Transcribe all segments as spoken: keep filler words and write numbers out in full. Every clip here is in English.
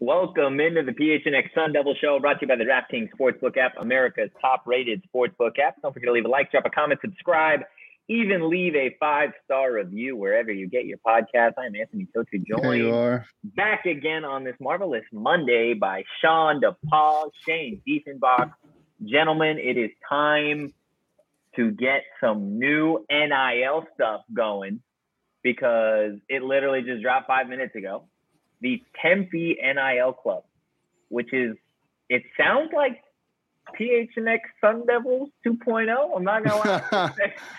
Welcome into the P H N X Sun Devil Show, brought to you by the DraftKings Sportsbook app, America's top-rated sportsbook app. Don't forget to leave a like, drop a comment, subscribe, even leave a five-star review wherever you get your podcast. I'm Anthony Totu, joined There you are. back again on this marvelous Monday by Sean DePaul, Shane Diefenbach. Gentlemen, it is time to get some new N I L stuff going because it literally just dropped five minutes ago. The Tempe N I L Club, which is, it sounds like P H N X Sun Devils two point oh. I'm not going to lie.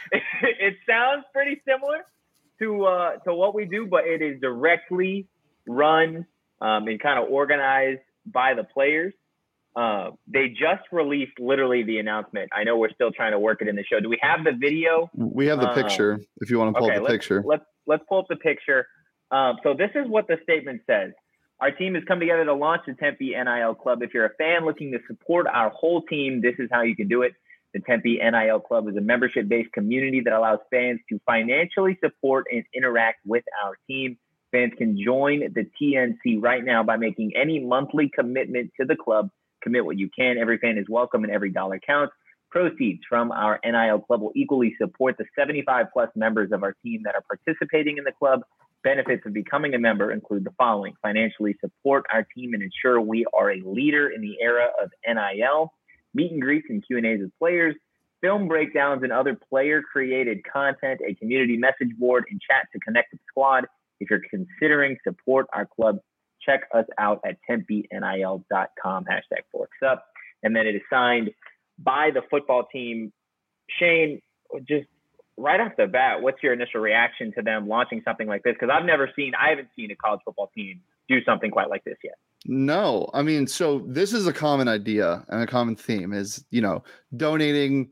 It sounds pretty similar to uh, to what we do, but it is directly run um, and kind of organized by the players. Uh, they just released literally the announcement. I know we're still trying to work it in the show. Do we have the video? We have the picture, um, if you want to pull okay, up the let's, picture. Let's, let's pull up the picture. Um, so this is what the statement says. Our team has come together to launch the Tempe N I L Club. If you're a fan looking to support our whole team, this is how you can do it. The Tempe N I L Club is a membership-based community that allows fans to financially support and interact with our team. Fans can join the T N C right now by making any monthly commitment to the club. Commit what you can. Every fan is welcome and every dollar counts. Proceeds from our N I L Club will equally support the seventy-five plus members of our team that are participating in the club. Benefits of becoming a member include the following: financially support our team and ensure we are a leader in the era of N I L, meet and greets and Q and A's with players, film breakdowns and other player-created content, a community message board, and chat to connect with the squad. If you're considering support our club, check us out at tempe N I L dot com, hashtag Forks Up. And then it is signed by the football team. Shane, just right off the bat, what's your initial reaction to them launching something like this? Because I've never seen, I haven't seen a college football team do something quite like this yet. No, I mean, so this is a common idea and a common theme is, you know, donating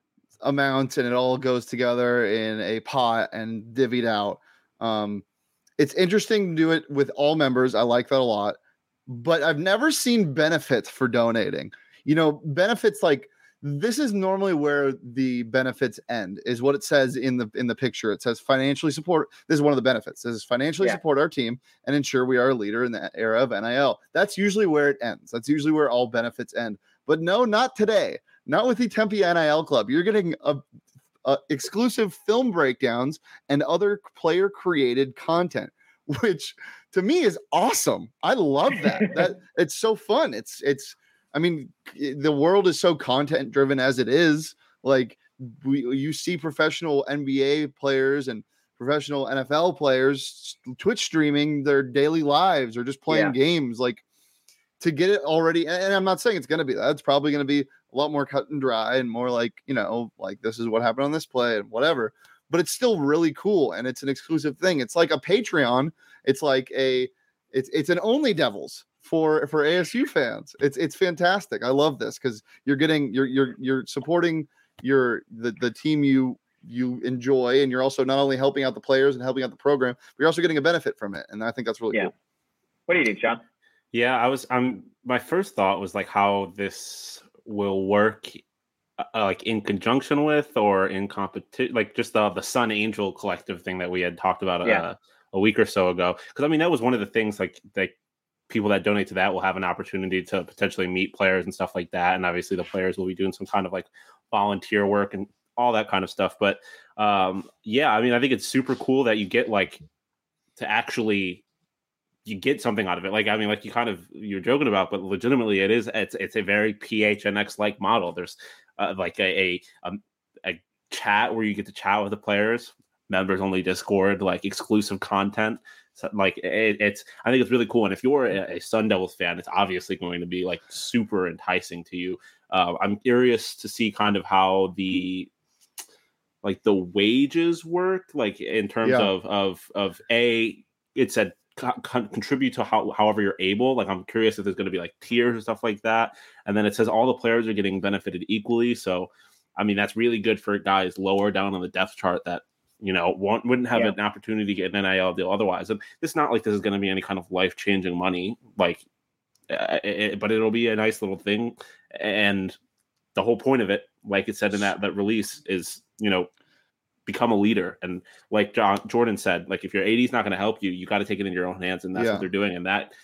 amounts and it all goes together in a pot and divvied out. Um, it's interesting to do it with all members. I like that a lot, but I've never seen benefits for donating. You know, benefits like, this is normally where the benefits end, is what it says in the in the picture. It says financially support. This is one of the benefits. It says financially yeah. support our team and ensure we are a leader in the era of N I L. That's usually where it ends. That's usually where all benefits end. But no, not today. Not with the Tempe N I L Club. You're getting a, a exclusive film breakdowns and other player created content, which to me is awesome. I love that. that it's so fun. It's it's. I mean, the world is so content driven as it is. Like we, you see professional N B A players and professional N F L players Twitch streaming their daily lives or just playing yeah. games. Like to get it already. And I'm not saying it's going to be that. It's probably going to be a lot more cut and dry and more like, you know, like this is what happened on this play and whatever. But it's still really cool and it's an exclusive thing. It's like a Patreon. It's like a it's it's an Only Devils. For for A S U fans, it's it's fantastic. I love this because you're getting you're you're you're supporting your the, the team you you enjoy, and you're also not only helping out the players and helping out the program, but you're also getting a benefit from it. And I think that's really yeah. cool. What do you think, Sean? Yeah, I was. I'm. My first thought was like how this will work, uh, like in conjunction with or in competition, like just the the Sun Angel Collective thing that we had talked about yeah. uh, a week or so ago. Because I mean, that was one of the things like like. people that donate to that will have an opportunity to potentially meet players and stuff like that. And obviously the players will be doing some kind of like volunteer work and all that kind of stuff. But um, yeah, I mean, I think it's super cool that you get like to actually, you get something out of it. Like, I mean, like you kind of, you're joking about, but legitimately it is, it's, it's a very P H N X like model. There's uh, like a, a, a chat where you get to chat with the players, members only Discord, like exclusive content. So, like it, it's, I think it's really cool. And if you're a, a Sun Devils fan, it's obviously going to be like super enticing to you. Uh, I'm curious to see kind of how the, like the wages work, like in terms yeah. of, of, of a, it said co- contribute to how, however you're able. Like, I'm curious if there's going to be like tiers and stuff like that. And then it says all the players are getting benefited equally. So, I mean, that's really good for guys lower down on the depth chart that, you know, want, wouldn't have yeah. an opportunity to get an N I L deal otherwise. And it's not like this is going to be any kind of life-changing money, like, uh, it, but it'll be a nice little thing. And the whole point of it, like it said in that, that release, is, you know, become a leader. And like John, Jordan said, like if your A D is not going to help you, you got to take it in your own hands. And that's yeah. what they're doing. And that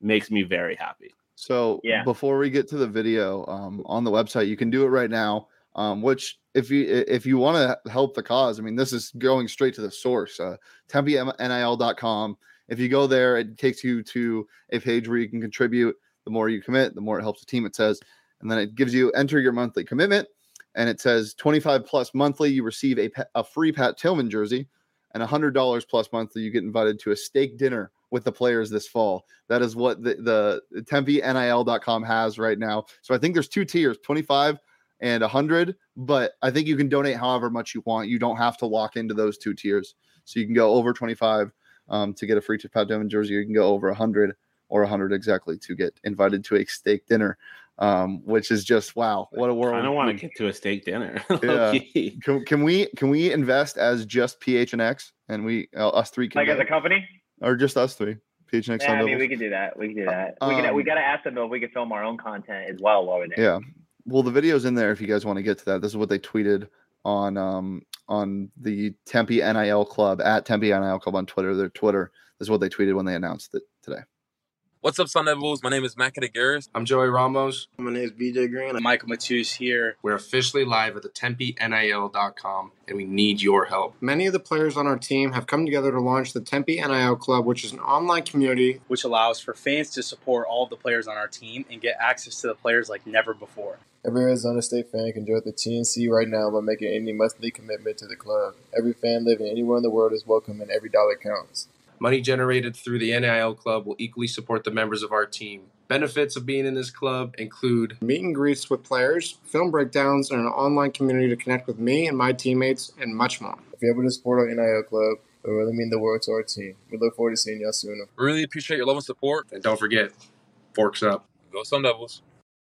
makes me very happy. So Yeah. before we get to the video, um, on the website, you can do it right now. Um, which if you if you want to help the cause, I mean, this is going straight to the source. Uh, Tempe N I L dot com. If you go there, it takes you to a page where you can contribute. The more you commit, the more it helps the team, it says. And then it gives you enter your monthly commitment. And it says twenty-five plus monthly, you receive a, a free Pat Tillman jersey. And one hundred dollars plus monthly, you get invited to a steak dinner with the players this fall. That is what the, the Tempe N I L dot com has right now. So I think there's two tiers, twenty-five and one hundred. But I think you can donate however much you want. You don't have to lock into those two tiers. So you can go over twenty-five um, to get a free Pat Tillman jersey. You can go over one hundred or one hundred exactly to get invited to a steak dinner, um, which is just, wow, what a world. I don't want to get to a steak dinner. Yeah. Can, can we can we invest as just P H N X and we uh, us three can Like go? as a company? Or just us three? P H N X. Yeah, I mean, Devils? we could do that. We could do that. Um, we could. We got to ask them though if we could film our own content as well while we're there. Yeah. Well, the video's in there if you guys want to get to that. This is what they tweeted on um on the Tempe N I L Club at Tempe N I L Club on Twitter. Their Twitter. This is what they tweeted when they announced it today. What's up, Sun Devils? My name is Matt Kataguris. I'm Joey Ramos. My name is B J Green. I'm Michael Matus here. We're officially live at the Tempe N I L dot com, and we need your help. Many of the players on our team have come together to launch the Tempe N I L Club, which is an online community which allows for fans to support all of the players on our team and get access to the players like never before. Every Arizona State fan can join the T N C right now by making any monthly commitment to the club. Every fan living anywhere in the world is welcome, and every dollar counts. Money generated through the N I L Club will equally support the members of our team. Benefits of being in this club include meet and greets with players, film breakdowns, and an online community to connect with me and my teammates, and much more. If you're able to support our N I L Club, it will really mean the world to our team. We look forward to seeing y'all soon. Really appreciate your love and support. And don't forget, forks up. Go Sun Devils.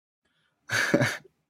they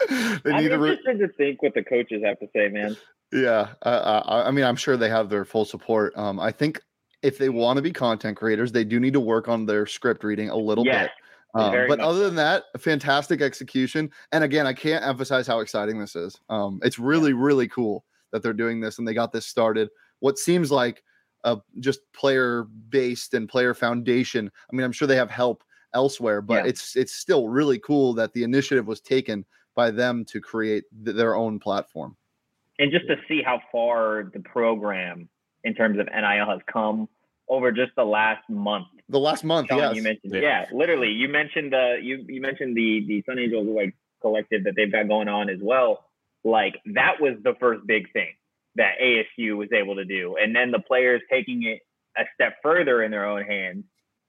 I'm need to re- interested to think what the coaches have to say, man. Yeah. Uh, I, I mean, I'm sure they have their full support. Um, I think if they want to be content creators, they do need to work on their script reading a little Yes. bit. Um, Very but much other than that, fantastic execution. And again, I can't emphasize how exciting this is. Um, it's really, really cool that they're doing this and they got this started. What seems like a just player based and player foundation. I mean, I'm sure they have help elsewhere, but Yeah. it's it's still really cool that the initiative was taken by them to create th- their own platform. And just to see how far the program in terms of N I L has come over just the last month. The last month, Sean, yes. you mentioned, Yeah. yeah. literally. You mentioned the you you mentioned the the Sun Angels like collective that they've got going on as well. Like that was the first big thing that A S U was able to do, and then the players taking it a step further in their own hands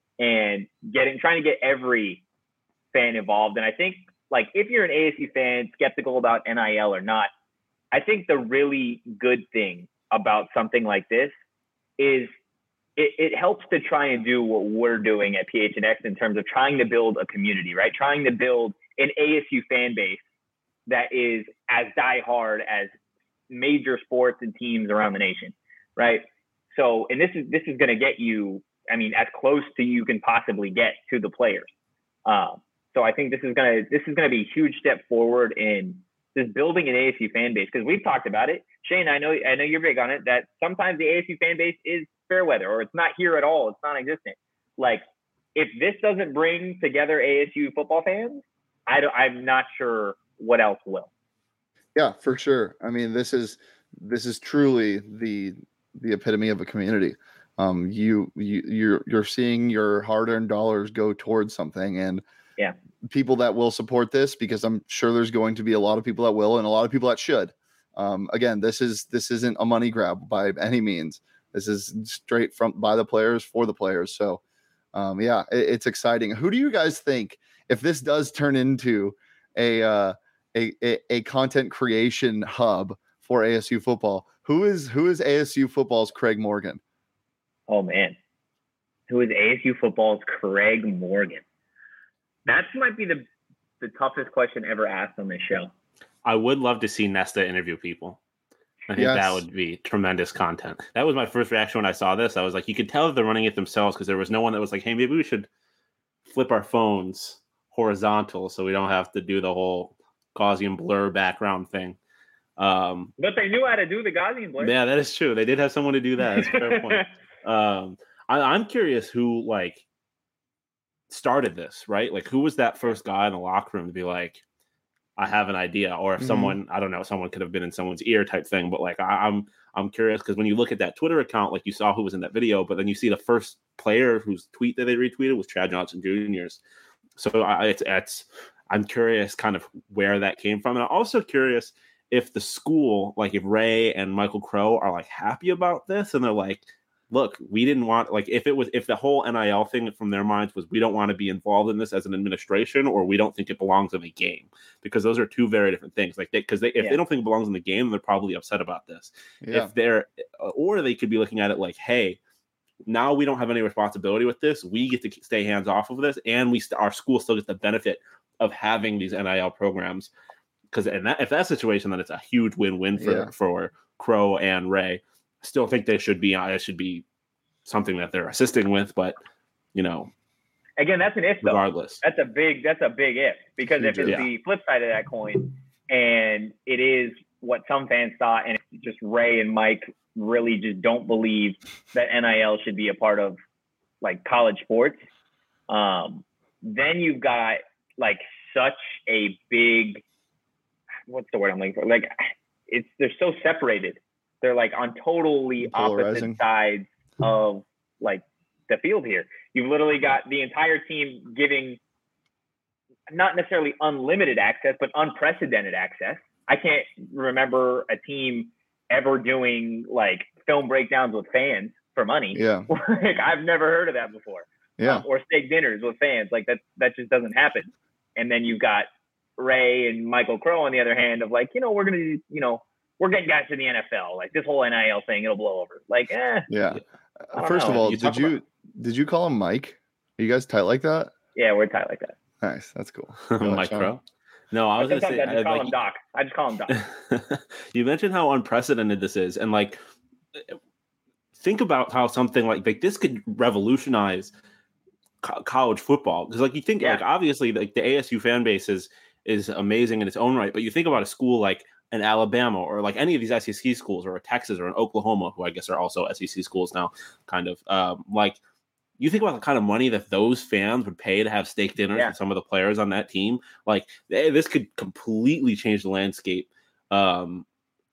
and getting trying to get every fan involved. And I think like if you're an A S U fan, skeptical about N I L or not, I think the really good thing about something like this is it, it helps to try and do what we're doing at P H N X in terms of trying to build a community, right? Trying to build an A S U fan base that is as diehard as major sports and teams around the nation, right? So, and this is this is going to get you, I mean, as close to you can possibly get to the players. Um, so I think this is gonna this is gonna be a huge step forward in just building an A S U fan base, because we've talked about it. Shane, I know I know you're big on it, that sometimes the A S U fan base is fair weather or it's not here at all. It's non-existent. Like if this doesn't bring together A S U football fans, I don't, I'm not sure what else will. Yeah, for sure. I mean, this is this is truly the the epitome of a community. Um, you you you're you're seeing your hard-earned dollars go towards something, and yeah, people that will support this, because I'm sure there's going to be a lot of people that will and a lot of people that should. Um, again, this is this isn't a money grab by any means. This is straight from by the players for the players. So, um, yeah, it, it's exciting. Who do you guys think, if this does turn into a uh, a, a a content creation hub for A S U football, who is who is A S U football's Craig Morgan? Oh man, who is A S U football's Craig Morgan? That might be the the toughest question ever asked on this show. I would love to see Nesta interview people. I think Yes. that would be tremendous content. That was my first reaction when I saw this. I was like, you could tell that they're running it themselves, because there was no one that was like, hey, maybe we should flip our phones horizontal so we don't have to do the whole Gaussian blur background thing. Um, But they knew how to do the Gaussian blur. yeah, that is true. They did have someone to do that. That's a fair point. Um, I, I'm curious who, like, started this, right? Like, who was that first guy in the locker room to be like, I have an idea, or if Mhm. someone, I don't know, someone could have been in someone's ear type thing. But like, I, I'm, I'm curious because when you look at that Twitter account, like you saw who was in that video, but then you see the first player whose tweet that they retweeted was Chad Johnson Junior's. So I, it's, it's, I'm curious kind of where that came from. And I'm also curious if the school, like if Ray and Michael Crow are like happy about this and they're like, look, we didn't want, like, if it was, if the whole N I L thing from their minds was, we don't want to be involved in this as an administration, or we don't think it belongs in the game, because those are two very different things. Like, because they, they, if Yeah. they don't think it belongs in the game, they're probably upset about this. Yeah. If they're, or they could be looking at it like, hey, now we don't have any responsibility with this. We get to stay hands off of this, and we st- our school still gets the benefit of having these N I L programs. Because in that, if that situation, then it's a huge win-win for Yeah. for Crow and Ray. Still think they should be. It should be something that they're assisting with, but you know, Again, that's an if though. regardless, That's a big that's a big if, because if Huge it's if. the flip side of that coin and it is what some fans thought, and it's just Ray and Mike really just don't believe that N I L should be a part of like college sports, um, then you've got like such a big, what's the word I'm looking for? Like, it's they're so separated. They're like on totally Polarizing. opposite sides of like the field here. You've literally got the entire team giving not necessarily unlimited access, but unprecedented access. I can't remember a team ever doing like film breakdowns with fans for money. Yeah. Like, I've never heard of that before. Yeah. Um, or steak dinners with fans. Like that, that just doesn't happen. And then you've got Ray and Michael Crow on the other hand of like, you know, we're going to, you know, we're getting guys to the N F L. Like this whole N I L thing, it'll blow over. Like, eh, Yeah. I don't First of know. all, You did talk you about- did you call him Mike? Are you guys tight like that? yeah, we're tight like that. Nice. That's cool. Go ahead, Mike Sean. Crow. No, I was But going to sometimes say, I just I, call like, him Doc. I just call him Doc. you mentioned how unprecedented this is, and like, think about how something like, like this could revolutionize co- college football. Because like you think, Yeah. like obviously, like the A S U fan base is is amazing in its own right, but you think about a school like an Alabama or like any of these S E C schools, or a Texas or an Oklahoma, who I guess are also S E C schools now, kind of um, like. You think about the kind of money that those fans would pay to have steak dinners Yeah. with some of the players on that team. Like, they, this could completely change the landscape um,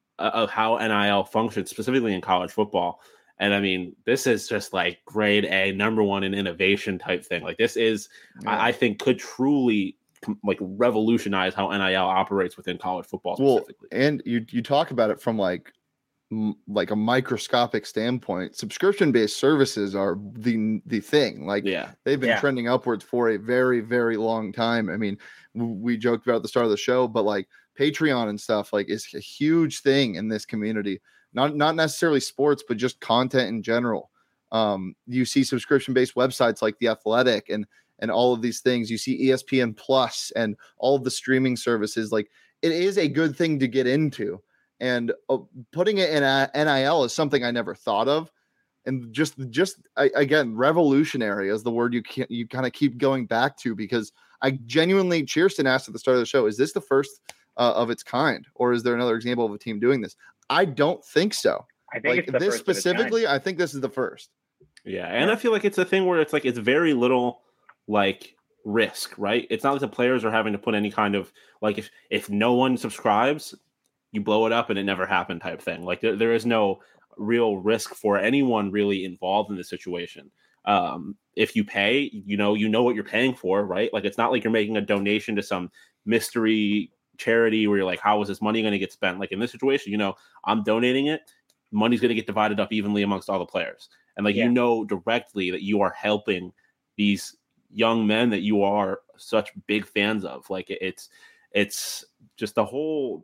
of how N I L functions, specifically in college football. And I mean, this is just like grade A, number one in innovation type thing. Like, this is, Yeah. I, I think, could truly com- like revolutionize how N I L operates within college football Well, specifically. and you you talk about it from like m- like a microscopic standpoint. Subscription based services are the the thing. Like yeah, they've been Yeah. trending upwards for a very very long time. I mean, w- we joked about at the start of the show, but like Patreon and stuff like is a huge thing in this community. Not not necessarily sports, but just content in general. Um, you see subscription based websites like The Athletic and and all of these things. You see E S P N Plus and all of the streaming services. Like, it is a good thing to get into. And uh, putting it in a N I L is something I never thought of. And just, just I, again, revolutionary is the word you can't, you kind of keep going back to, because I genuinely, Cheerston asked at the start of the show, is this the first uh, of its kind, or is there another example of a team doing this? I don't think so. I think Like it's the this first of its kind. specifically, I think this is the first. yeah. And I feel like it's a thing where it's like, it's very little like risk, right? It's not like the players are having to put any kind of like, if, if no one subscribes, you blow it up and it never happened type thing. Like there, there is no real risk for anyone really involved in this situation. Um, if you pay, you know, you know what you're paying for, right? Like, it's not like you're making a donation to some mystery charity where you're like, how is this money going to get spent? Like in this situation, you know, I'm donating it. Money's going to get divided up evenly amongst all the players. And like, Yeah. you know, directly that you are helping these young men that you are such big fans of. Like it, it's, it's just the whole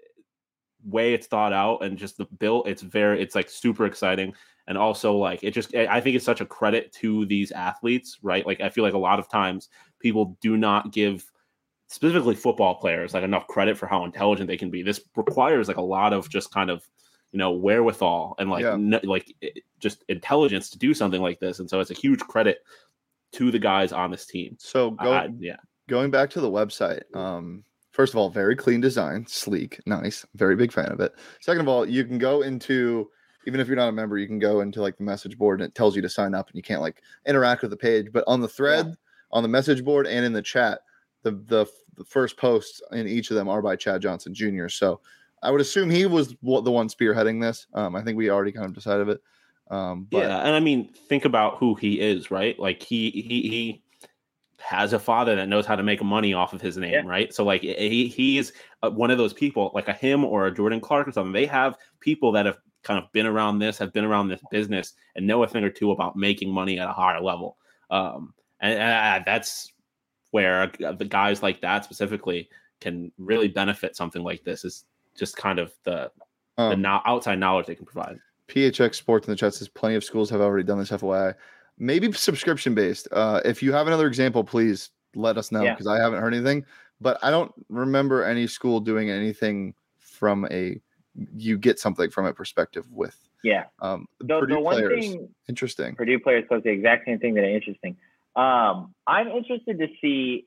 way it's thought out, and just the bill. It's very, it's like super exciting. And also like, it just, I think it's such a credit to these athletes, right? Like, I feel like a lot of times people do not give specifically football players like enough credit for how intelligent they can be. This requires like a lot of just kind of, you know, wherewithal and like, Yeah. n- like it, just intelligence to do something like this. And so it's a huge credit to the guys on this team. So go, I- yeah. going back to the website, um, first of all, very clean design, sleek, nice, very big fan of it. Second of all, you can go into, even if you're not a member, you can go into like the message board and it tells you to sign up, and you can't like interact with the page. But on the thread on the message board and in the chat. The, the the first posts in each of them are by Chad Johnson Junior So I would assume he was the one spearheading this. Um, I think we already kind of decided it. Um, but yeah, and I mean, think about who he is, right? Like he he he has a father that knows how to make money off of his name, yeah. right? So like he he is one of those people, like a him or a Jordan Clark or something. They have people that have kind of been around this, have been around this business, and know a thing or two about making money at a higher level. Um, and, and that's where the guys like that specifically can really benefit something like this. Is just kind of the um, the no- outside knowledge they can provide. P H X Sports in the chat says plenty of schools have already done this. F Y I, maybe subscription based. Uh, if you have another example, please let us know because yeah. I haven't heard anything. But I don't remember any school doing anything from a you get something from a perspective with. Yeah. Um, the, Purdue the one players, thing, interesting. Purdue players post the exact same thing that are interesting. Um, I'm interested to see.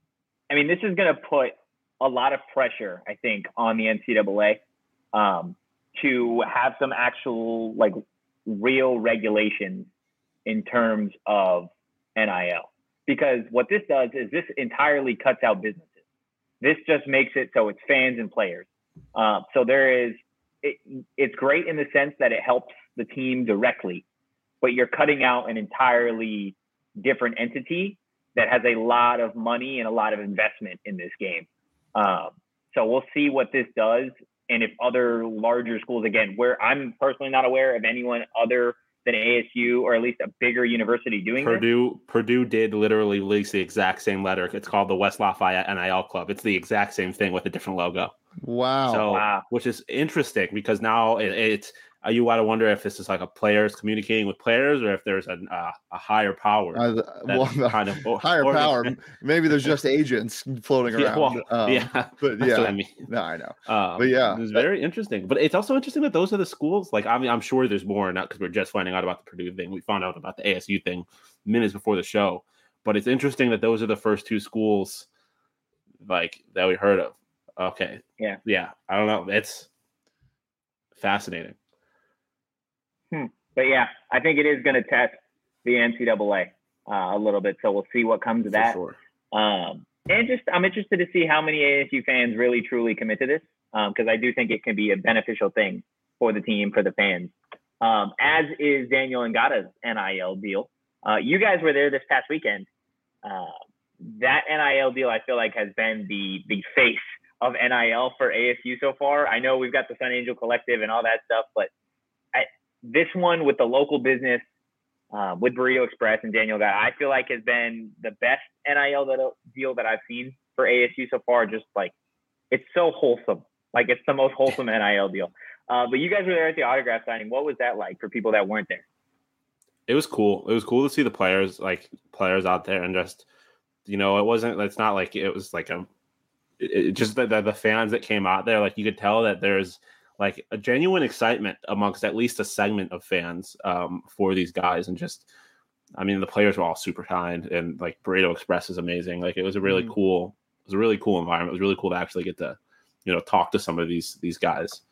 I mean, this is going to put a lot of pressure, I think, on the N C double A um, to have some actual, like, real regulations in terms of N I L. Because what this does is this entirely cuts out businesses. This just makes it so it's fans and players. Uh, so there is, it, it's great in the sense that it helps the team directly, but you're cutting out an entirely different entity that has a lot of money and a lot of investment in this game. Um, so we'll see what this does. And if other larger schools, again, where I'm personally not aware of anyone other than A S U or at least a bigger university doing Purdue, this. Purdue did literally release the exact same letter. It's called the West Lafayette N I L Club. It's the exact same thing with a different logo. Wow. So, wow. which is interesting because now it, it's, uh, you got to wonder if this is like a players communicating with players or if there's a, uh, a higher power. Uh, well, kind of or, higher or, power. Maybe there's just agents floating around. Yeah, well, um, yeah but that's yeah, what I mean. No, I know. Um, but yeah, it's very interesting. But it's also interesting that those are the schools. Like, I mean, I'm sure there's more, not because we're just finding out about the Purdue thing. We found out about the A S U thing minutes before the show. But it's interesting that those are the first two schools, like, that we heard of. Okay. Yeah. Yeah. I don't know. It's fascinating. Hmm. But yeah, I think it is going to test the N C double A uh, a little bit. So we'll see what comes of that. Sure. Um, and just, I'm interested to see how many A S U fans really truly commit to this. Um, cause I do think it can be a beneficial thing for the team, for the fans. Um, as is Daniel Ngata's N I L deal. Uh, you guys were there this past weekend. Uh, that N I L deal, I feel like has been the, the face of N I L for A S U so far. I know we've got the Sun Angel Collective and all that stuff, but I, this one with the local business, uh, with Burrito Express and Daniel Ngata, I feel like has been the best N I L that, deal that I've seen for A S U so far. Just like, it's so wholesome. Like, it's the most wholesome N I L deal. Uh, but you guys were there at the autograph signing. What was that like for people that weren't there? It was cool. It was cool to see the players, like players out there, and just, you know, it wasn't, it's not like it was like a, it, it just the, the, the fans that came out there, like you could tell that there's like a genuine excitement amongst at least a segment of fans um, for these guys. And just, I mean, the players were all super kind, and like Burrito Express is amazing. Like, it was a really mm. cool, it was a really cool environment. It was really cool to actually get to, you know, talk to some of these, these guys.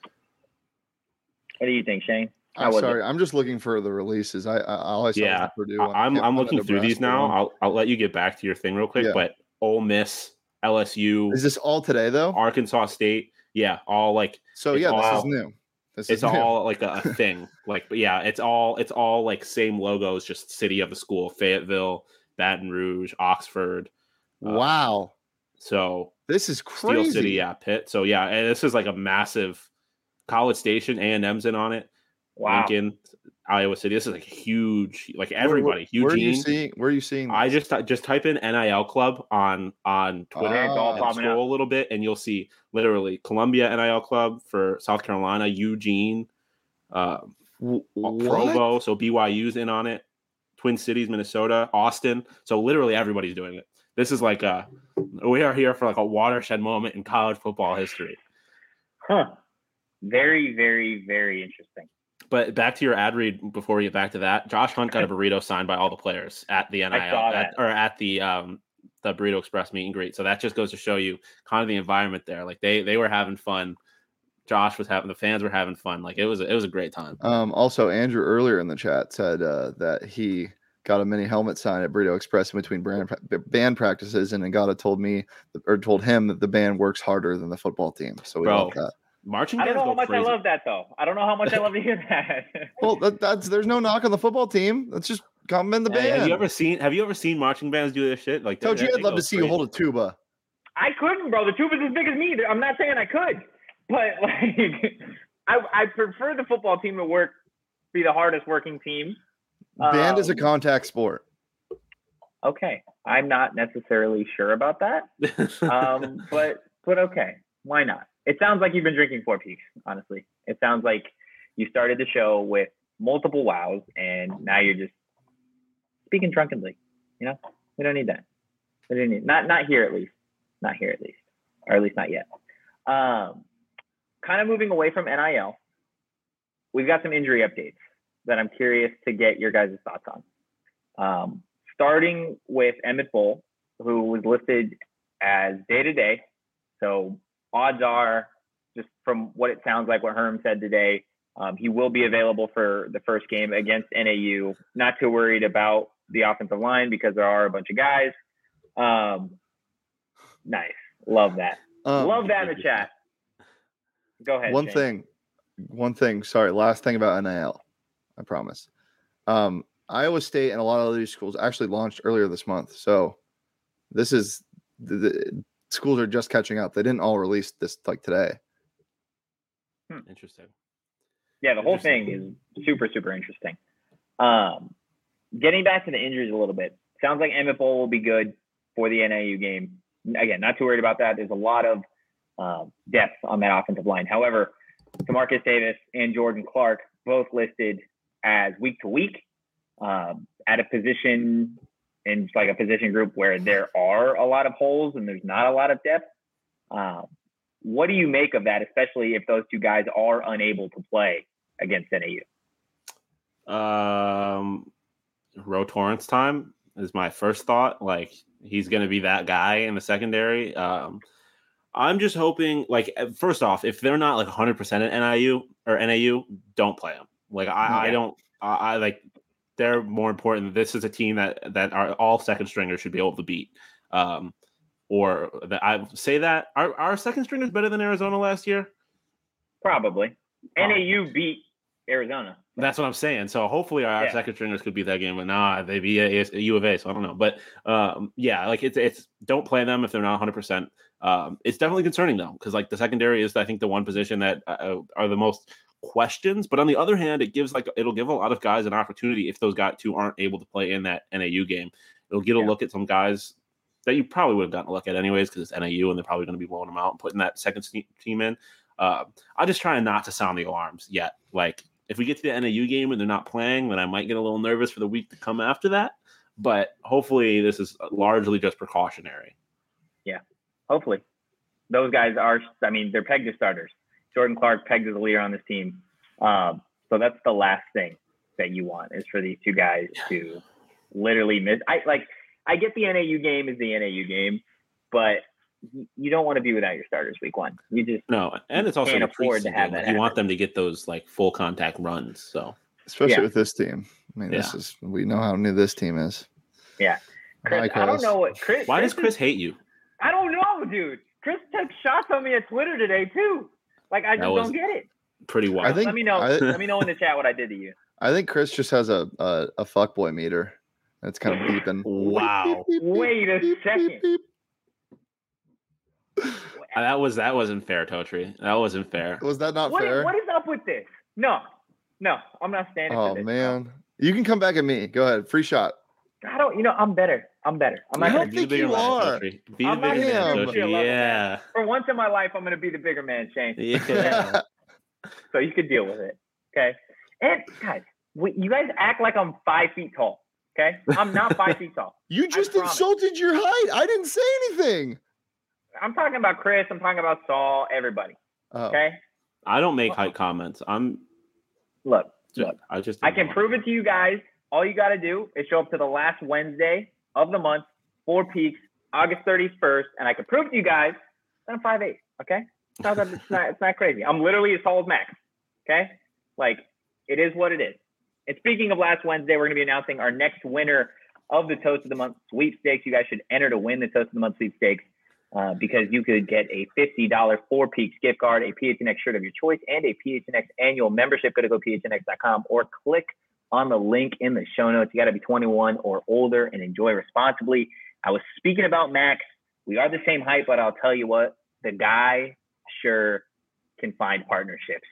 What do you think, Shane? I'm sorry. It? I'm just looking for the releases. I, I all I saw yeah, was Purdue. I'm I'm looking through these now. I'll I'll let you get back to your thing real quick. Yeah. But Ole Miss, L S U, is this all today though? Arkansas State, yeah, all like so. Yeah, all, this is new. This it's is new. all like a, a thing. Like, but yeah, it's all it's all like same logos, just city of the school: Fayetteville, Baton Rouge, Oxford. Wow. Uh, so this is crazy. Steel City, yeah, Pitt. So yeah, and this is like a massive College Station. A and M's in on it. Wow. Lincoln, Iowa City. This is like huge, like everybody. Where, where, Eugene. Where are you seeing? Where are you seeing? This? I just just type in N I L Club on on Twitter oh, and scroll a little bit, and you'll see literally Columbia N I L Club for South Carolina, Eugene, uh, Provo. So B Y U's in on it. Twin Cities, Minnesota, Austin. So literally everybody's doing it. This is like a we are here for like a watershed moment in college football history. Huh. Very, very, very interesting. But back to your ad read before we get back to that. Josh Hunt got a burrito signed by all the players at the N I L at, or at the um the Burrito Express meet and greet. So that just goes to show you kind of the environment there. Like they they were having fun. Josh was having the fans were having fun. Like it was it was a great time. Um also Andrew earlier in the chat said uh that he got a mini helmet sign at Burrito Express in between brand, band practices, and Ngata told me or told him that the band works harder than the football team. So we Bro, love that. Marching I don't bands know how go much crazy. I love that though. I don't know how much I love to hear that. Well, that, that's there's no knock on the football team. Let's just compliment the Hey, band. have you ever seen Have you ever seen marching bands do this shit? Like, Told they- you I'd they love go to see you crazy. hold a tuba. I couldn't, bro. The tuba's as big as me. I'm not saying I could, but like, I I prefer the football team to work, be the hardest working team. Band is a Um, contact sport. Okay, I'm not necessarily sure about that, um, but but okay, why not? It sounds like you've been drinking Four Peaks. Honestly, it sounds like you started the show with multiple wows, and now you're just speaking drunkenly. You know, we don't need that. We don't need not not here at least, not here at least, or at least not yet. Um, kind of moving away from N I L, we've got some injury updates that I'm curious to get your guys' thoughts on. Um, starting with Emmett Bull, who was listed as day-to-day. So odds are, just from what it sounds like what Herm said today, um, he will be available for the first game against N A U. Not too worried about the offensive line because there are a bunch of guys. Um, nice. Love that. Um, Love that in the chat. Go ahead. One Shane. thing, one thing. Sorry, last thing about N I L. I promise. Um, Iowa State and a lot of other schools actually launched earlier this month. So this is the, the schools are just catching up. They didn't all release this like today. Interesting. Yeah, the whole thing is super, super interesting. Um, getting back to the injuries a little bit, sounds like Emmett Bull will be good for the N A U game. Again, not too worried about that. There's a lot of uh, depth on that offensive line. However, Demarcus Davis and Jordan Clark both listed as week to week um, at a position in like a position group where there are a lot of holes and there's not a lot of depth. Um, what do you make of that, especially if those two guys are unable to play against N A U? Um, Ro Torrance time is my first thought. Like, he's going to be that guy in the secondary. Um, I'm just hoping, like, first off, if they're not like one hundred percent at N I U or N A U, don't play them. Like, I, Yeah. I don't, I, I like, they're more important. This is a team that that are all second stringers should be able to beat. Um, or that I say that our our second stringers better than Arizona last year. Probably. Oh. N A U beat Arizona. That's what I'm saying. So hopefully our Yeah. second stringers could beat that game, but nah, they beat a, a U of A. So I don't know, but um, yeah, like it's it's don't play them if they're not one hundred percent. Um, it's definitely concerning though, because like the secondary is I think the one position that uh, are the most questions. But on the other hand, it gives like it'll give a lot of guys an opportunity if those guys two aren't able to play in that N A U game. It'll get a Yeah. look at some guys that you probably would have gotten a look at anyways because it's N A U and they're probably going to be blowing them out and putting that second team in. Uh, I'm just trying not to sound the alarms yet. Like, if we get to the N A U game and they're not playing, then I might get a little nervous for the week to come after that. But hopefully this is largely just precautionary. Yeah, hopefully. Those guys are, I mean, they're pegged as starters. Jordan Clark pegged as a leader on this team. Um, so that's the last thing that you want is for these two guys to literally miss. I like, I get the N A U game is the N A U game, but you don't want to be without your starters week one. You just No, and it's also can't a afford to preseason have game. that You want happen. them to get those like full contact runs. So Especially Yeah. with this team. I mean, this Yeah. is we know how new this team is. Yeah. Chris, Hi, I don't Chris. know what Chris. why does is- Chris hate you? I don't know, dude. Chris took shots on me at Twitter today too. Like I That just was- don't get it. Pretty wild. I think Let me know. I, Let me know in the chat what I did to you. I think Chris just has a a, a fuckboy meter. It's kind of beeping. Wow. Beep, beep, beep, Wait a beep, beep, second. beep. That was that wasn't fair, Totri. That wasn't fair. Was that not What is, fair? what is up with this? No, no, I'm not standing Oh for this. man, you can come back at me. Go ahead, free shot. I don't. You know, I'm better. I'm better. I'm not I gonna don't Be do the think bigger you man, are. Totri. Be the I'm not bigger even man, gonna be your Totri. level, Yeah. For once in my life, I'm gonna be the bigger man, Shane. Yeah. So you could deal with it. Okay. And guys, we, you guys act like I'm five feet tall. Okay. I'm not five feet tall. You just promise. insulted your height. I didn't say anything. I'm talking about Chris. I'm talking about Saul. Everybody. Oh. Okay. I don't make height comments. I'm Look. just, Look. I just I can prove it to you guys. All you got to do is show up to the last Wednesday of the month, Four Peaks, August thirty-first, and I can prove it to you guys that I'm five eight. Okay. It's not, it's not, it's not crazy. I'm literally as tall as Max. Okay. Like, it is what it is. And speaking of last Wednesday, we're going to be announcing our next winner of the Toast of the Month sweepstakes. You guys should enter to win the Toast of the Month sweepstakes uh, because you could get a fifty dollars Four Peaks gift card, a P H N X shirt of your choice, and a P H N X annual membership. Go to go P H N X dot com or click on the link in the show notes. You got to be twenty-one or older and enjoy responsibly. I was speaking about Max. We are the same height, but I'll tell you what, the guy sure can find partnerships.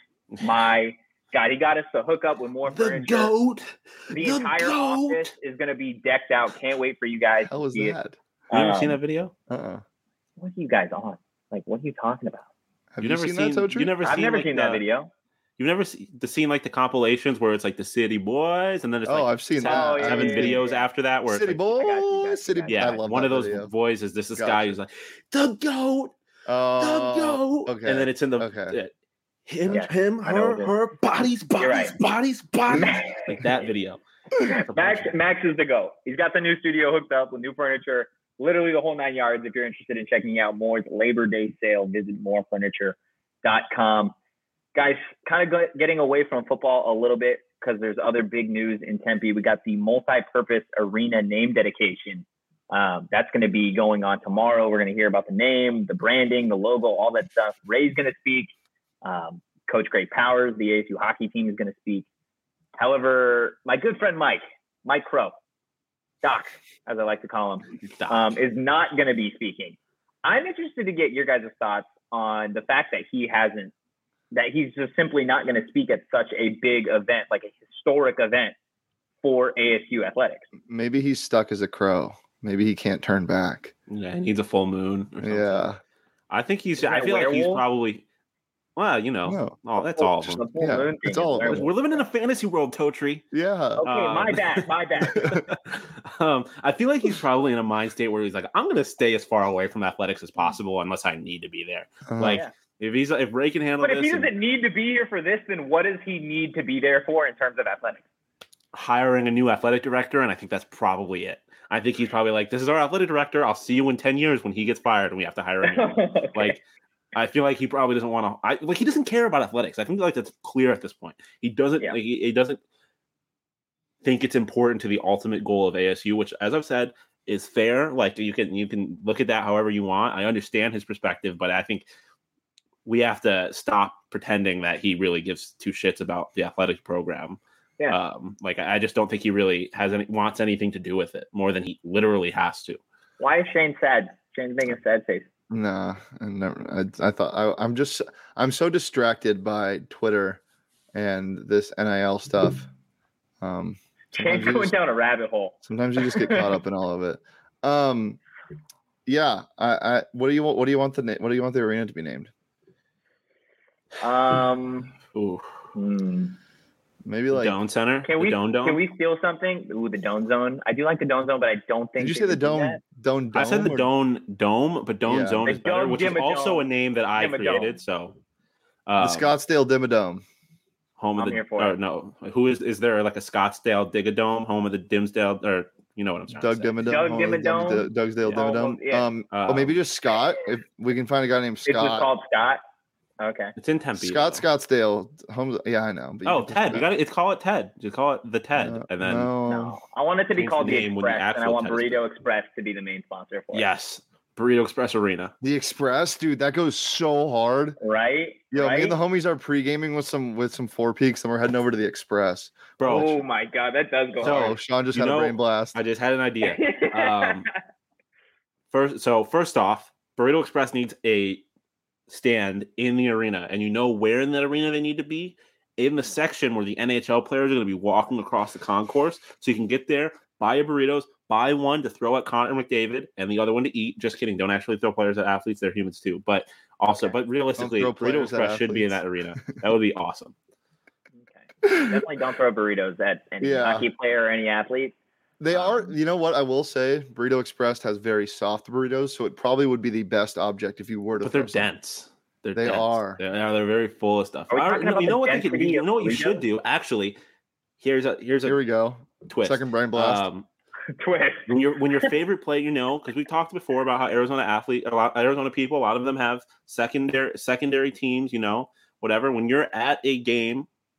My God, he got us to hook up with more The furniture. goat. The, The entire goat. office is going to be decked out. Can't wait for you guys How to was see that? it. You ever Um, seen that video? Uh-uh. What are you guys on? Like, what are you talking about? Have you you, never seen, seen, that, Totri? you never I've seen never like seen the, that video. You've never seen the seen like the compilations where it's like the City Boys, and then it's Oh, like I've seen seven, that. Oh, yeah, seven yeah, videos yeah. after that where City it's like, I got you, got you, Boys, City. got you. yeah, I love one that of those video. voices. This this Gotcha. guy who's like the goat, the Oh, goat, okay. and then it's in the Okay. uh, him, Yeah, him, I know her, what it is. her, bodies, bodies, right. bodies, bodies, like that video. Max, Max is the go. He's got the new studio hooked up with new furniture, literally the whole nine yards. If you're interested in checking out Moore's Labor Day sale, visit more furniture dot com. Guys, kind of go, getting away from football a little bit because there's other big news in Tempe. We got the multi-purpose arena name dedication. Um, that's going to be going on tomorrow. We're going to hear about the name, the branding, the logo, all that stuff. Ray's going to speak. Um, Coach Great Powers, the A S U hockey team, is going to speak. However, my good friend Mike, Mike Crow, Doc, as I like to call him, Doc. um, is not going to be speaking. I'm interested to get your guys' thoughts on the fact that he hasn't, that he's just simply not going to speak at such a big event, like a historic event for A S U athletics. Maybe he's stuck as a crow. Maybe he can't turn back. Yeah, he needs a full moon. Or something. Yeah. I think he's. Isn't I that feel like he's werewolf? probably. Well, you know, No. oh, that's all of them. The full Yeah, moon it's thing all is of them. werewolf. We're living in a fantasy world, Totri. Yeah. Okay, my Um, bad, my bad. um, I feel like he's probably in a mind state where he's like, I'm going to stay as far away from athletics as possible unless I need to be there. Uh, Like, Yeah. if he's if Ray can handle But if this, he and doesn't need to be here for this, then what does he need to be there for in terms of athletics? hiring a new athletic director, and I think that's probably it. I think he's probably like, this is our athletic director. I'll see you in ten years when he gets fired and we have to hire a new one. Okay. Like, I feel like he probably doesn't want to. I like he doesn't care about athletics. I think like that's clear at this point. He doesn't. Yeah. Like, he, he doesn't think it's important to the ultimate goal of A S U, which, as I've said, is fair. Like you can you can look at that however you want. I understand his perspective, but I think we have to stop pretending that he really gives two shits about the athletic program. Yeah. Um, like I just don't think he really has any wants anything to do with it more than he literally has to. Why is Shane sad? Shane's making a sad face. Nah, I never. I, I thought I, I'm just. I'm so distracted by Twitter and this N I L stuff. Um, Shane's sometimes you going just- down a rabbit hole. Sometimes you just get caught up in all of it. Um, yeah. I, I. What do you want? What do you want the name? What do you want the arena to be named? Um, Ooh, hmm. Maybe like. Doan Center. Can the we Doan Dome. can we steal something? Ooh, the Doan Zone. I do like the Doan Zone, but I don't think. Did you they say the would do dome? that. Dome. I said the or- Doan Dome, but Doan Yeah. Zone The is better, Dome which is also Dimmadome. a name that I Dimmadome. created. So, The um, Scottsdale Dimmadome. home of I'm the here for or it. no, who is is there like a Scottsdale Digadome, home of the Dimsdale, or you know what I'm trying Doug to say? Dimmadome. Doug home of the Dimmadome. Dim- Dougsdale Home of- Dimmadome. yeah. Um, or maybe Um, just Scott. If we can find a guy named It's just Scott. called Scott. Okay. It's in Tempe. Scott though. Scottsdale. Home. Yeah, I know. but you Oh, can- Ted. You got to It's call it Ted. Just call it the Ted, No, and then no. No, I want it to be Change called the the name when the Express, and I actual want Ted is Burrito built. Express to be the main sponsor for it. yes, Burrito Express Arena. The Express, dude, that goes so hard. Right. Yo, right? me and the homies are pre-gaming with some with some Four Peaks, and we're heading over to the Express. Bro, Oh my God, that does go So, Oh, hard. Sean just you had know, a brain blast. I just had an idea. Um, first, so first off, Burrito Express needs a stand in the arena, and you know where in that arena they need to be? In the section where the N H L players are going to be walking across the concourse, so you can get there, buy your burritos, buy one to throw at Connor McDavid, and the other one to eat. Just kidding. Don't actually throw players at athletes. They're humans too. But also, Okay. but realistically, throw Burrito players at Express should be in that athletes. arena. That would be awesome. Okay. Definitely don't throw burritos at any Yeah. hockey player or any athlete. They are, Um, you know what I will say? Burrito Express has very soft burritos, so it probably would be the best object if you were to. But they're throw some. dense. They're They dense. are. They're, they're very full of stuff. Are we All right, talking you know- about you know the what they could, density you of know what you burritos? should do? Actually, here's a here's a Here we go. twist. Second brain blast. Um, Twist. when your when your favorite play, you know, because we talked before about how Arizona athlete, a lot Arizona people, a lot of them have secondary secondary teams, you know, whatever. When you're at a game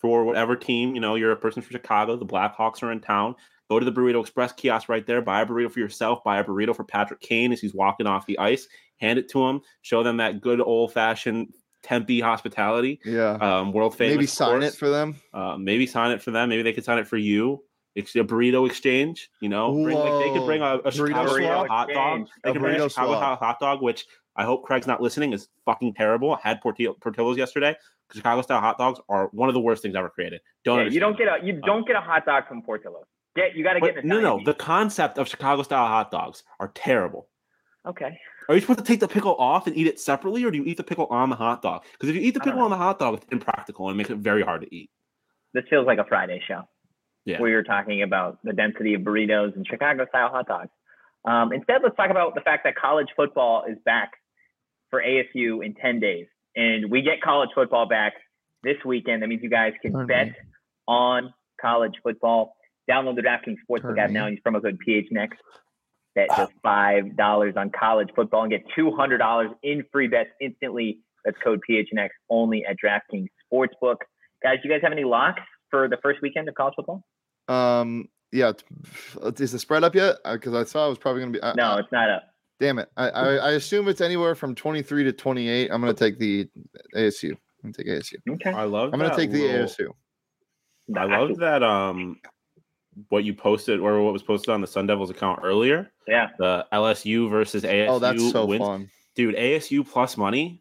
for whatever team, you know, you're a person from Chicago, the Blackhawks are in town. Go to the Burrito Express kiosk right there. Buy a burrito for yourself. Buy a burrito for Patrick Kane as he's walking off the ice. Hand it to him. Show them that good old-fashioned Tempe hospitality. Yeah. Um, world famous. Maybe sign course. it for them. Uh, maybe sign it for them. Maybe they could sign it for you. It's a burrito exchange. You know, bring, like they could bring a, a Chicago swap? hot dog. They A could bring a burrito Chicago swap. hot dog, which I hope Craig's not listening. Is fucking terrible. I had Portillo, Portillo's yesterday. Chicago style hot dogs are one of the worst things ever created. Don't Yeah, you don't get a you don't get a hot dog from Portillo's. Get you got to get But an no, no. Italian The concept of Chicago style hot dogs are terrible. beef. Okay. Are you supposed to take the pickle off and eat it separately, or do you eat the pickle on the hot dog? Because if you eat the I don't pickle know. on the hot dog, it's impractical and it makes it very hard to eat. This feels like a Friday show. Yeah. Where you're talking about the density of burritos and Chicago style hot dogs. Um, instead, let's talk about the fact that college football is back for A S U in ten days. And we get college football back this weekend. That means you guys can Pardon bet me. on college football. Download the DraftKings Sportsbook Pardon app me. now and use promo code P H N X. Bet just five dollars on college football and get two hundred dollars in free bets instantly. That's code P H N X only at DraftKings Sportsbook. Guys, do you guys have any locks for the first weekend of college football? Um, yeah. t- Is the spread up yet? Because I saw it was probably going to be. I, No, I, it's not up. damn it. I, I I assume it's anywhere from twenty-three to twenty-eight. I'm going to take the A S U. I'm going to take A S U. Okay. I love. I'm going to that take the little- A S U. I love that. Um, what you posted or what was posted on the Sun Devils account earlier. Yeah. The L S U versus A S U. Oh, that's so wins. fun. Dude. A S U plus money.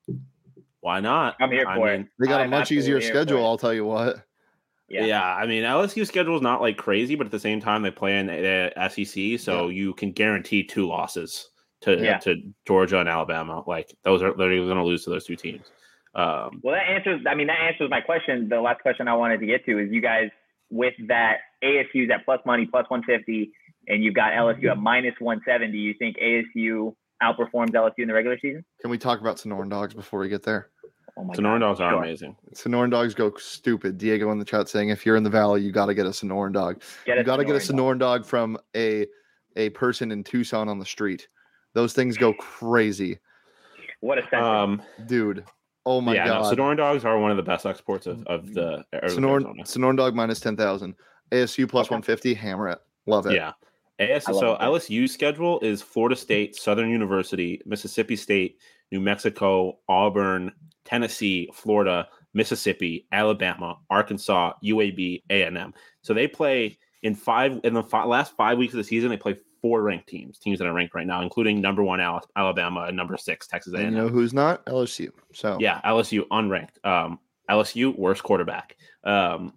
Why not? I'm here I for mean, it. They got a I'm much absolutely easier here for schedule. it. I'll tell you what. Yeah. Yeah. I mean, L S U schedule is not like crazy, but at the same time, they play in the S E C, so you can guarantee two losses to Yeah. to Georgia and Alabama. Like those are they're going to lose to those two teams. Um, Well, that answers. I mean, that answers my question. The last question I wanted to get to is you guys with that A S U's at plus money, plus one fifty, and you've got L S U at minus one seventy. Do you think A S U outperforms L S U in the regular season? Can we talk about Sonoran Dogs before we get there? Oh my Sonoran God. Dogs are Sure. amazing. Sonoran Dogs go stupid. Diego in the chat saying, if you're in the Valley, you got to get a Sonoran Dog. Get You got to get a Sonoran dog. Sonoran Dog from a a person in Tucson on the street. Those things go crazy, What a sentence. Um, dude. Oh my yeah, god. no, Sonoran Dogs are one of the best exports of, of the Sonoran, Arizona. Sonoran Dog minus ten thousand. A S U plus Okay. one fifty. Hammer it. Love it. Yeah. A S, I love so it. L S U schedule is Florida State, Southern University, Mississippi State, New Mexico, Auburn, Tennessee, Florida, Mississippi, Alabama, Arkansas, U A B, A and M. So they play in five in the fi- last five weeks of the season. They play four ranked teams, teams that are ranked right now, including number one Al- Alabama and number six Texas A And and you M. know who's not? L S U. So Yeah, L S U unranked. Um, L S U worst quarterback. Um,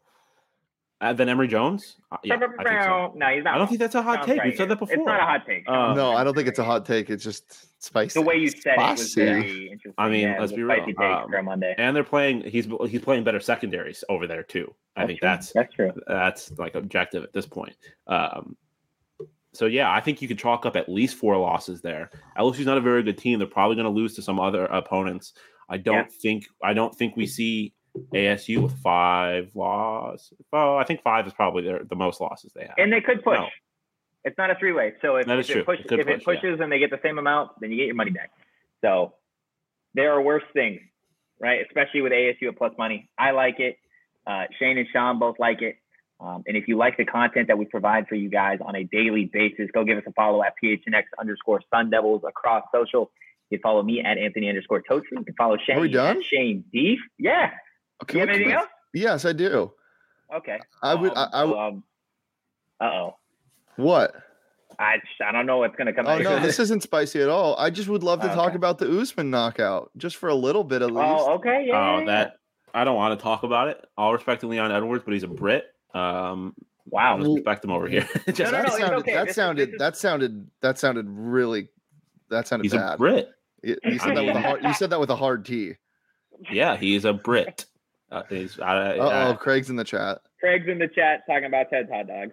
uh, then Emory Jones. Uh, yeah, I think so. No, he's not. I don't think that's a hot Sounds take. right We've said here. that before. It's not a hot take. Uh, no, I don't think it's a hot take. It's just spicy. the way you said it was Spicy. very interesting. I mean, yeah, it let's was be a real. spicy take Um, for a Monday. And they're playing. He's he's playing better secondaries over there too. I think true. that's that's true. that's like objective at this point. Um, so yeah, I think you could chalk up at least four losses there. L S U's not a very good team. They're probably going to lose to some other opponents. I don't Yeah. think I don't think we see A S U with five losses. Oh, I think five is probably their, the most losses they have. And they could push. No. It's not a three way. So if, That if is it, true. push, It could if it push, yeah. pushes and they get the same amount, then you get your money back. So there are worse things, right? Especially with A S U at plus money. I like it. Uh, Shane and Sean both like it. Um, and if you like the content that we provide for you guys on a daily basis, go give us a follow at P H N X underscore Sun Devils across social. You can follow me at Anthony underscore Totri. You can follow Shane Are we done? at Shane Deef. Yeah. Okay, You have what- anything else? Yes, I do. Okay. I would. I, I would- Um, uh-oh. what? I, I don't know what's going to come Oh out. no, this isn't spicy at all. I just would love to talk Okay. about the Usman knockout, just for a little bit at least. Oh, okay. Yeah. Oh, yeah, that I don't want to talk about it. All respect to Leon Edwards, but he's a Brit. Um, yeah. Wow. let's respect him over here. Just, No, no, that it's sounded. okay. That This is- sounded. this is- That sounded. That sounded really. That sounded he's bad. a Brit. You, you said I that with a mean- hard. You said that with a hard T. Yeah, he's a Brit. Uh, he's, uh, Uh oh, uh, Craig's in the chat. Craig's in the chat talking about Ted's hot dogs.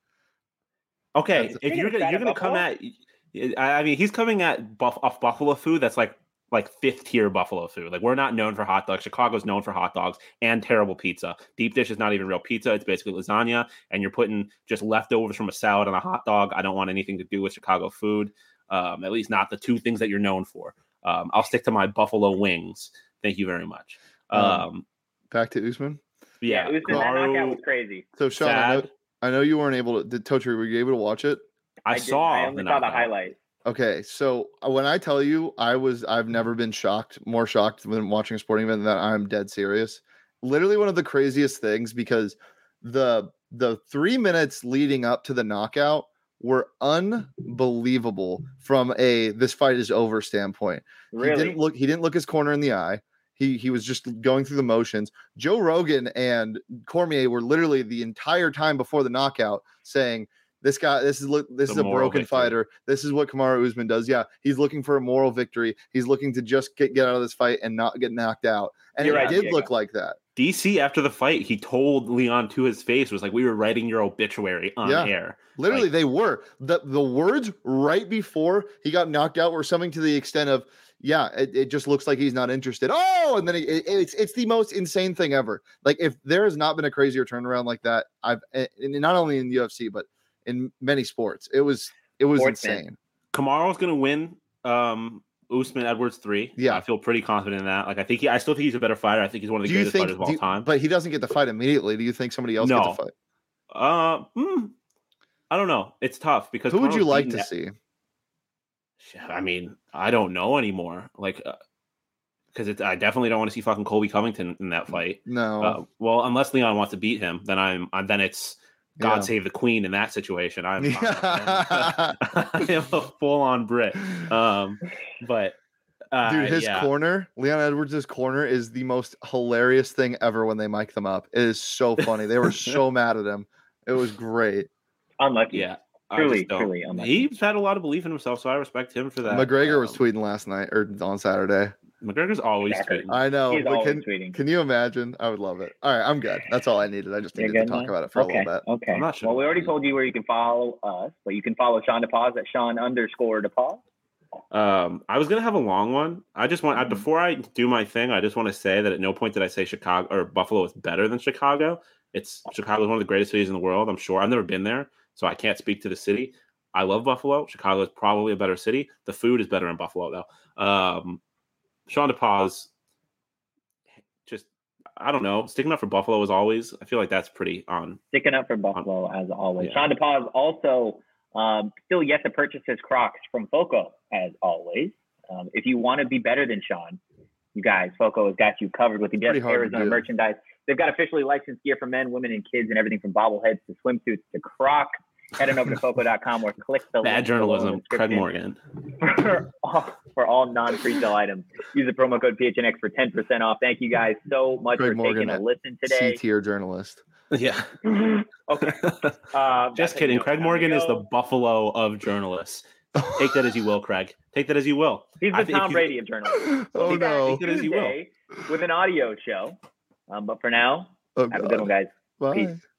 okay, That's- if You're you're gonna gonna try you're to gonna come Buffalo? at, I I mean, he's coming at buff off Buffalo food. That's like like fifth tier Buffalo food. Like we're not known for hot dogs. Chicago's known for hot dogs and terrible pizza. Deep dish is not even real pizza. It's basically lasagna, and you're putting just leftovers from a salad on a hot dog. I don't want anything to do with Chicago food. Um, at least not the two things that you're known for. Um, I'll stick to my Buffalo wings. Thank you very much. Um, Um, Back to Usman. yeah, Usman, that Kamaru, knockout was crazy. So Sean, I know, sad. I know you weren't able to. Did Totri, were you able to watch it? I, I didn't. saw. I only the saw the knockout. highlight. Okay, so uh, when I tell you, I was I've never been shocked, more shocked when watching a sporting event than I'm dead serious. Literally one of the craziest things because the the three minutes leading up to the knockout were unbelievable from a this fight is over standpoint. Really? He didn't look he didn't look his corner in the eye. He he was just going through the motions. Joe Rogan and Cormier were literally the entire time before the knockout saying, This guy, this is this The is a moral broken victory. fighter. This is what Kamaru Usman does. Yeah, he's looking for a moral victory. He's looking to just get, get out of this fight and not get knocked out. And You're it right, did Diego. look like that. D C after the fight, he told Leon to his face, was like, "We were writing your obituary on Yeah. air." Literally, Like- they were. The the words right before he got knocked out were something to the extent of, yeah, it, it just looks like he's not interested. Oh, and then it, it- it's it's the most insane thing ever. Like if there has not been a crazier turnaround like that, I've and not only in the U F C but in many sports. It was it was Sportsman. insane. Kamaru's gonna win. Um, Usman Edwards three. Yeah. I feel pretty confident in that. Like I think he, I still think he's a better fighter. I think he's one of the Do you greatest think? fighters of all do you- time. But he doesn't get the fight immediately. Do you think somebody else No. gets the fight? Uh, hmm, I don't know. It's tough because Who would you Kamaru's like beaten to that- see? I mean, I don't know anymore. Like, because it's I definitely don't want to see fucking Colby Covington in that fight. No. Uh, well, unless Leon wants to beat him, then I'm, I'm then it's God Yeah. save the Queen in that situation. I'm, Yeah. I am a full on Brit. Um, but uh, Dude, his yeah. corner, Leon Edwards' corner is the most hilarious thing ever when they mic them up. It is so funny. They were so mad at him. It was great. Unlucky. Yeah, I Truly, just don't- truly unlucky. He's had a lot of belief in himself, so I respect him for that. McGregor was Um, tweeting last night or on Saturday. McGregor's always Shocker. tweeting. I know. He's but always can, tweeting. can you imagine? I would love it. All right, I'm good. That's all I needed. I just You're needed to good talk now? about it for okay. a little bit. Okay. I'm not sure Well, we about already that. told you where you can follow us, but you can follow Sean DePaz at Sean underscore DePaz. Um, I was gonna have a long one. I just want I, Mhm. before I do my thing, I just want to say that at no point did I say Chicago or Buffalo is better than Chicago. It's Chicago is one of the greatest cities in the world. I'm sure. I've never been there, so I can't speak to the city. I love Buffalo. Chicago is probably a better city. The food is better in Buffalo though. Um, Sean DePaz, just I don't know, sticking up for Buffalo as always. I feel like that's pretty on. Sticking up for Buffalo as always. Yeah. Sean DePaz also um, still yet to purchase his Crocs from Foco as always. Um, if you want to be better than Sean, you guys, Foco has got you covered with the best Pretty hard to Arizona do. merchandise. They've got officially licensed gear for men, women, and kids, and everything from bobbleheads to swimsuits to Croc. Head on over to foco dot com or click the Bad link below in the journalism, Craig description Morgan. for all, for all non-pre-sale items. Use the promo code P H N X for ten percent off. Thank you guys so much Craig for Morgan taking a at listen C today. tier journalist. Yeah. Okay. Uh, Just kidding. Craig Morgan is the Buffalo of journalists. Take that as you will, Craig. Take that as you will. He's I the think Tom he's- Brady of journalism. Oh We'll be back no. Take it as you will. Tuesday with an audio show. Um, but for now, Oh, have a good one, God. guys. Bye. Peace.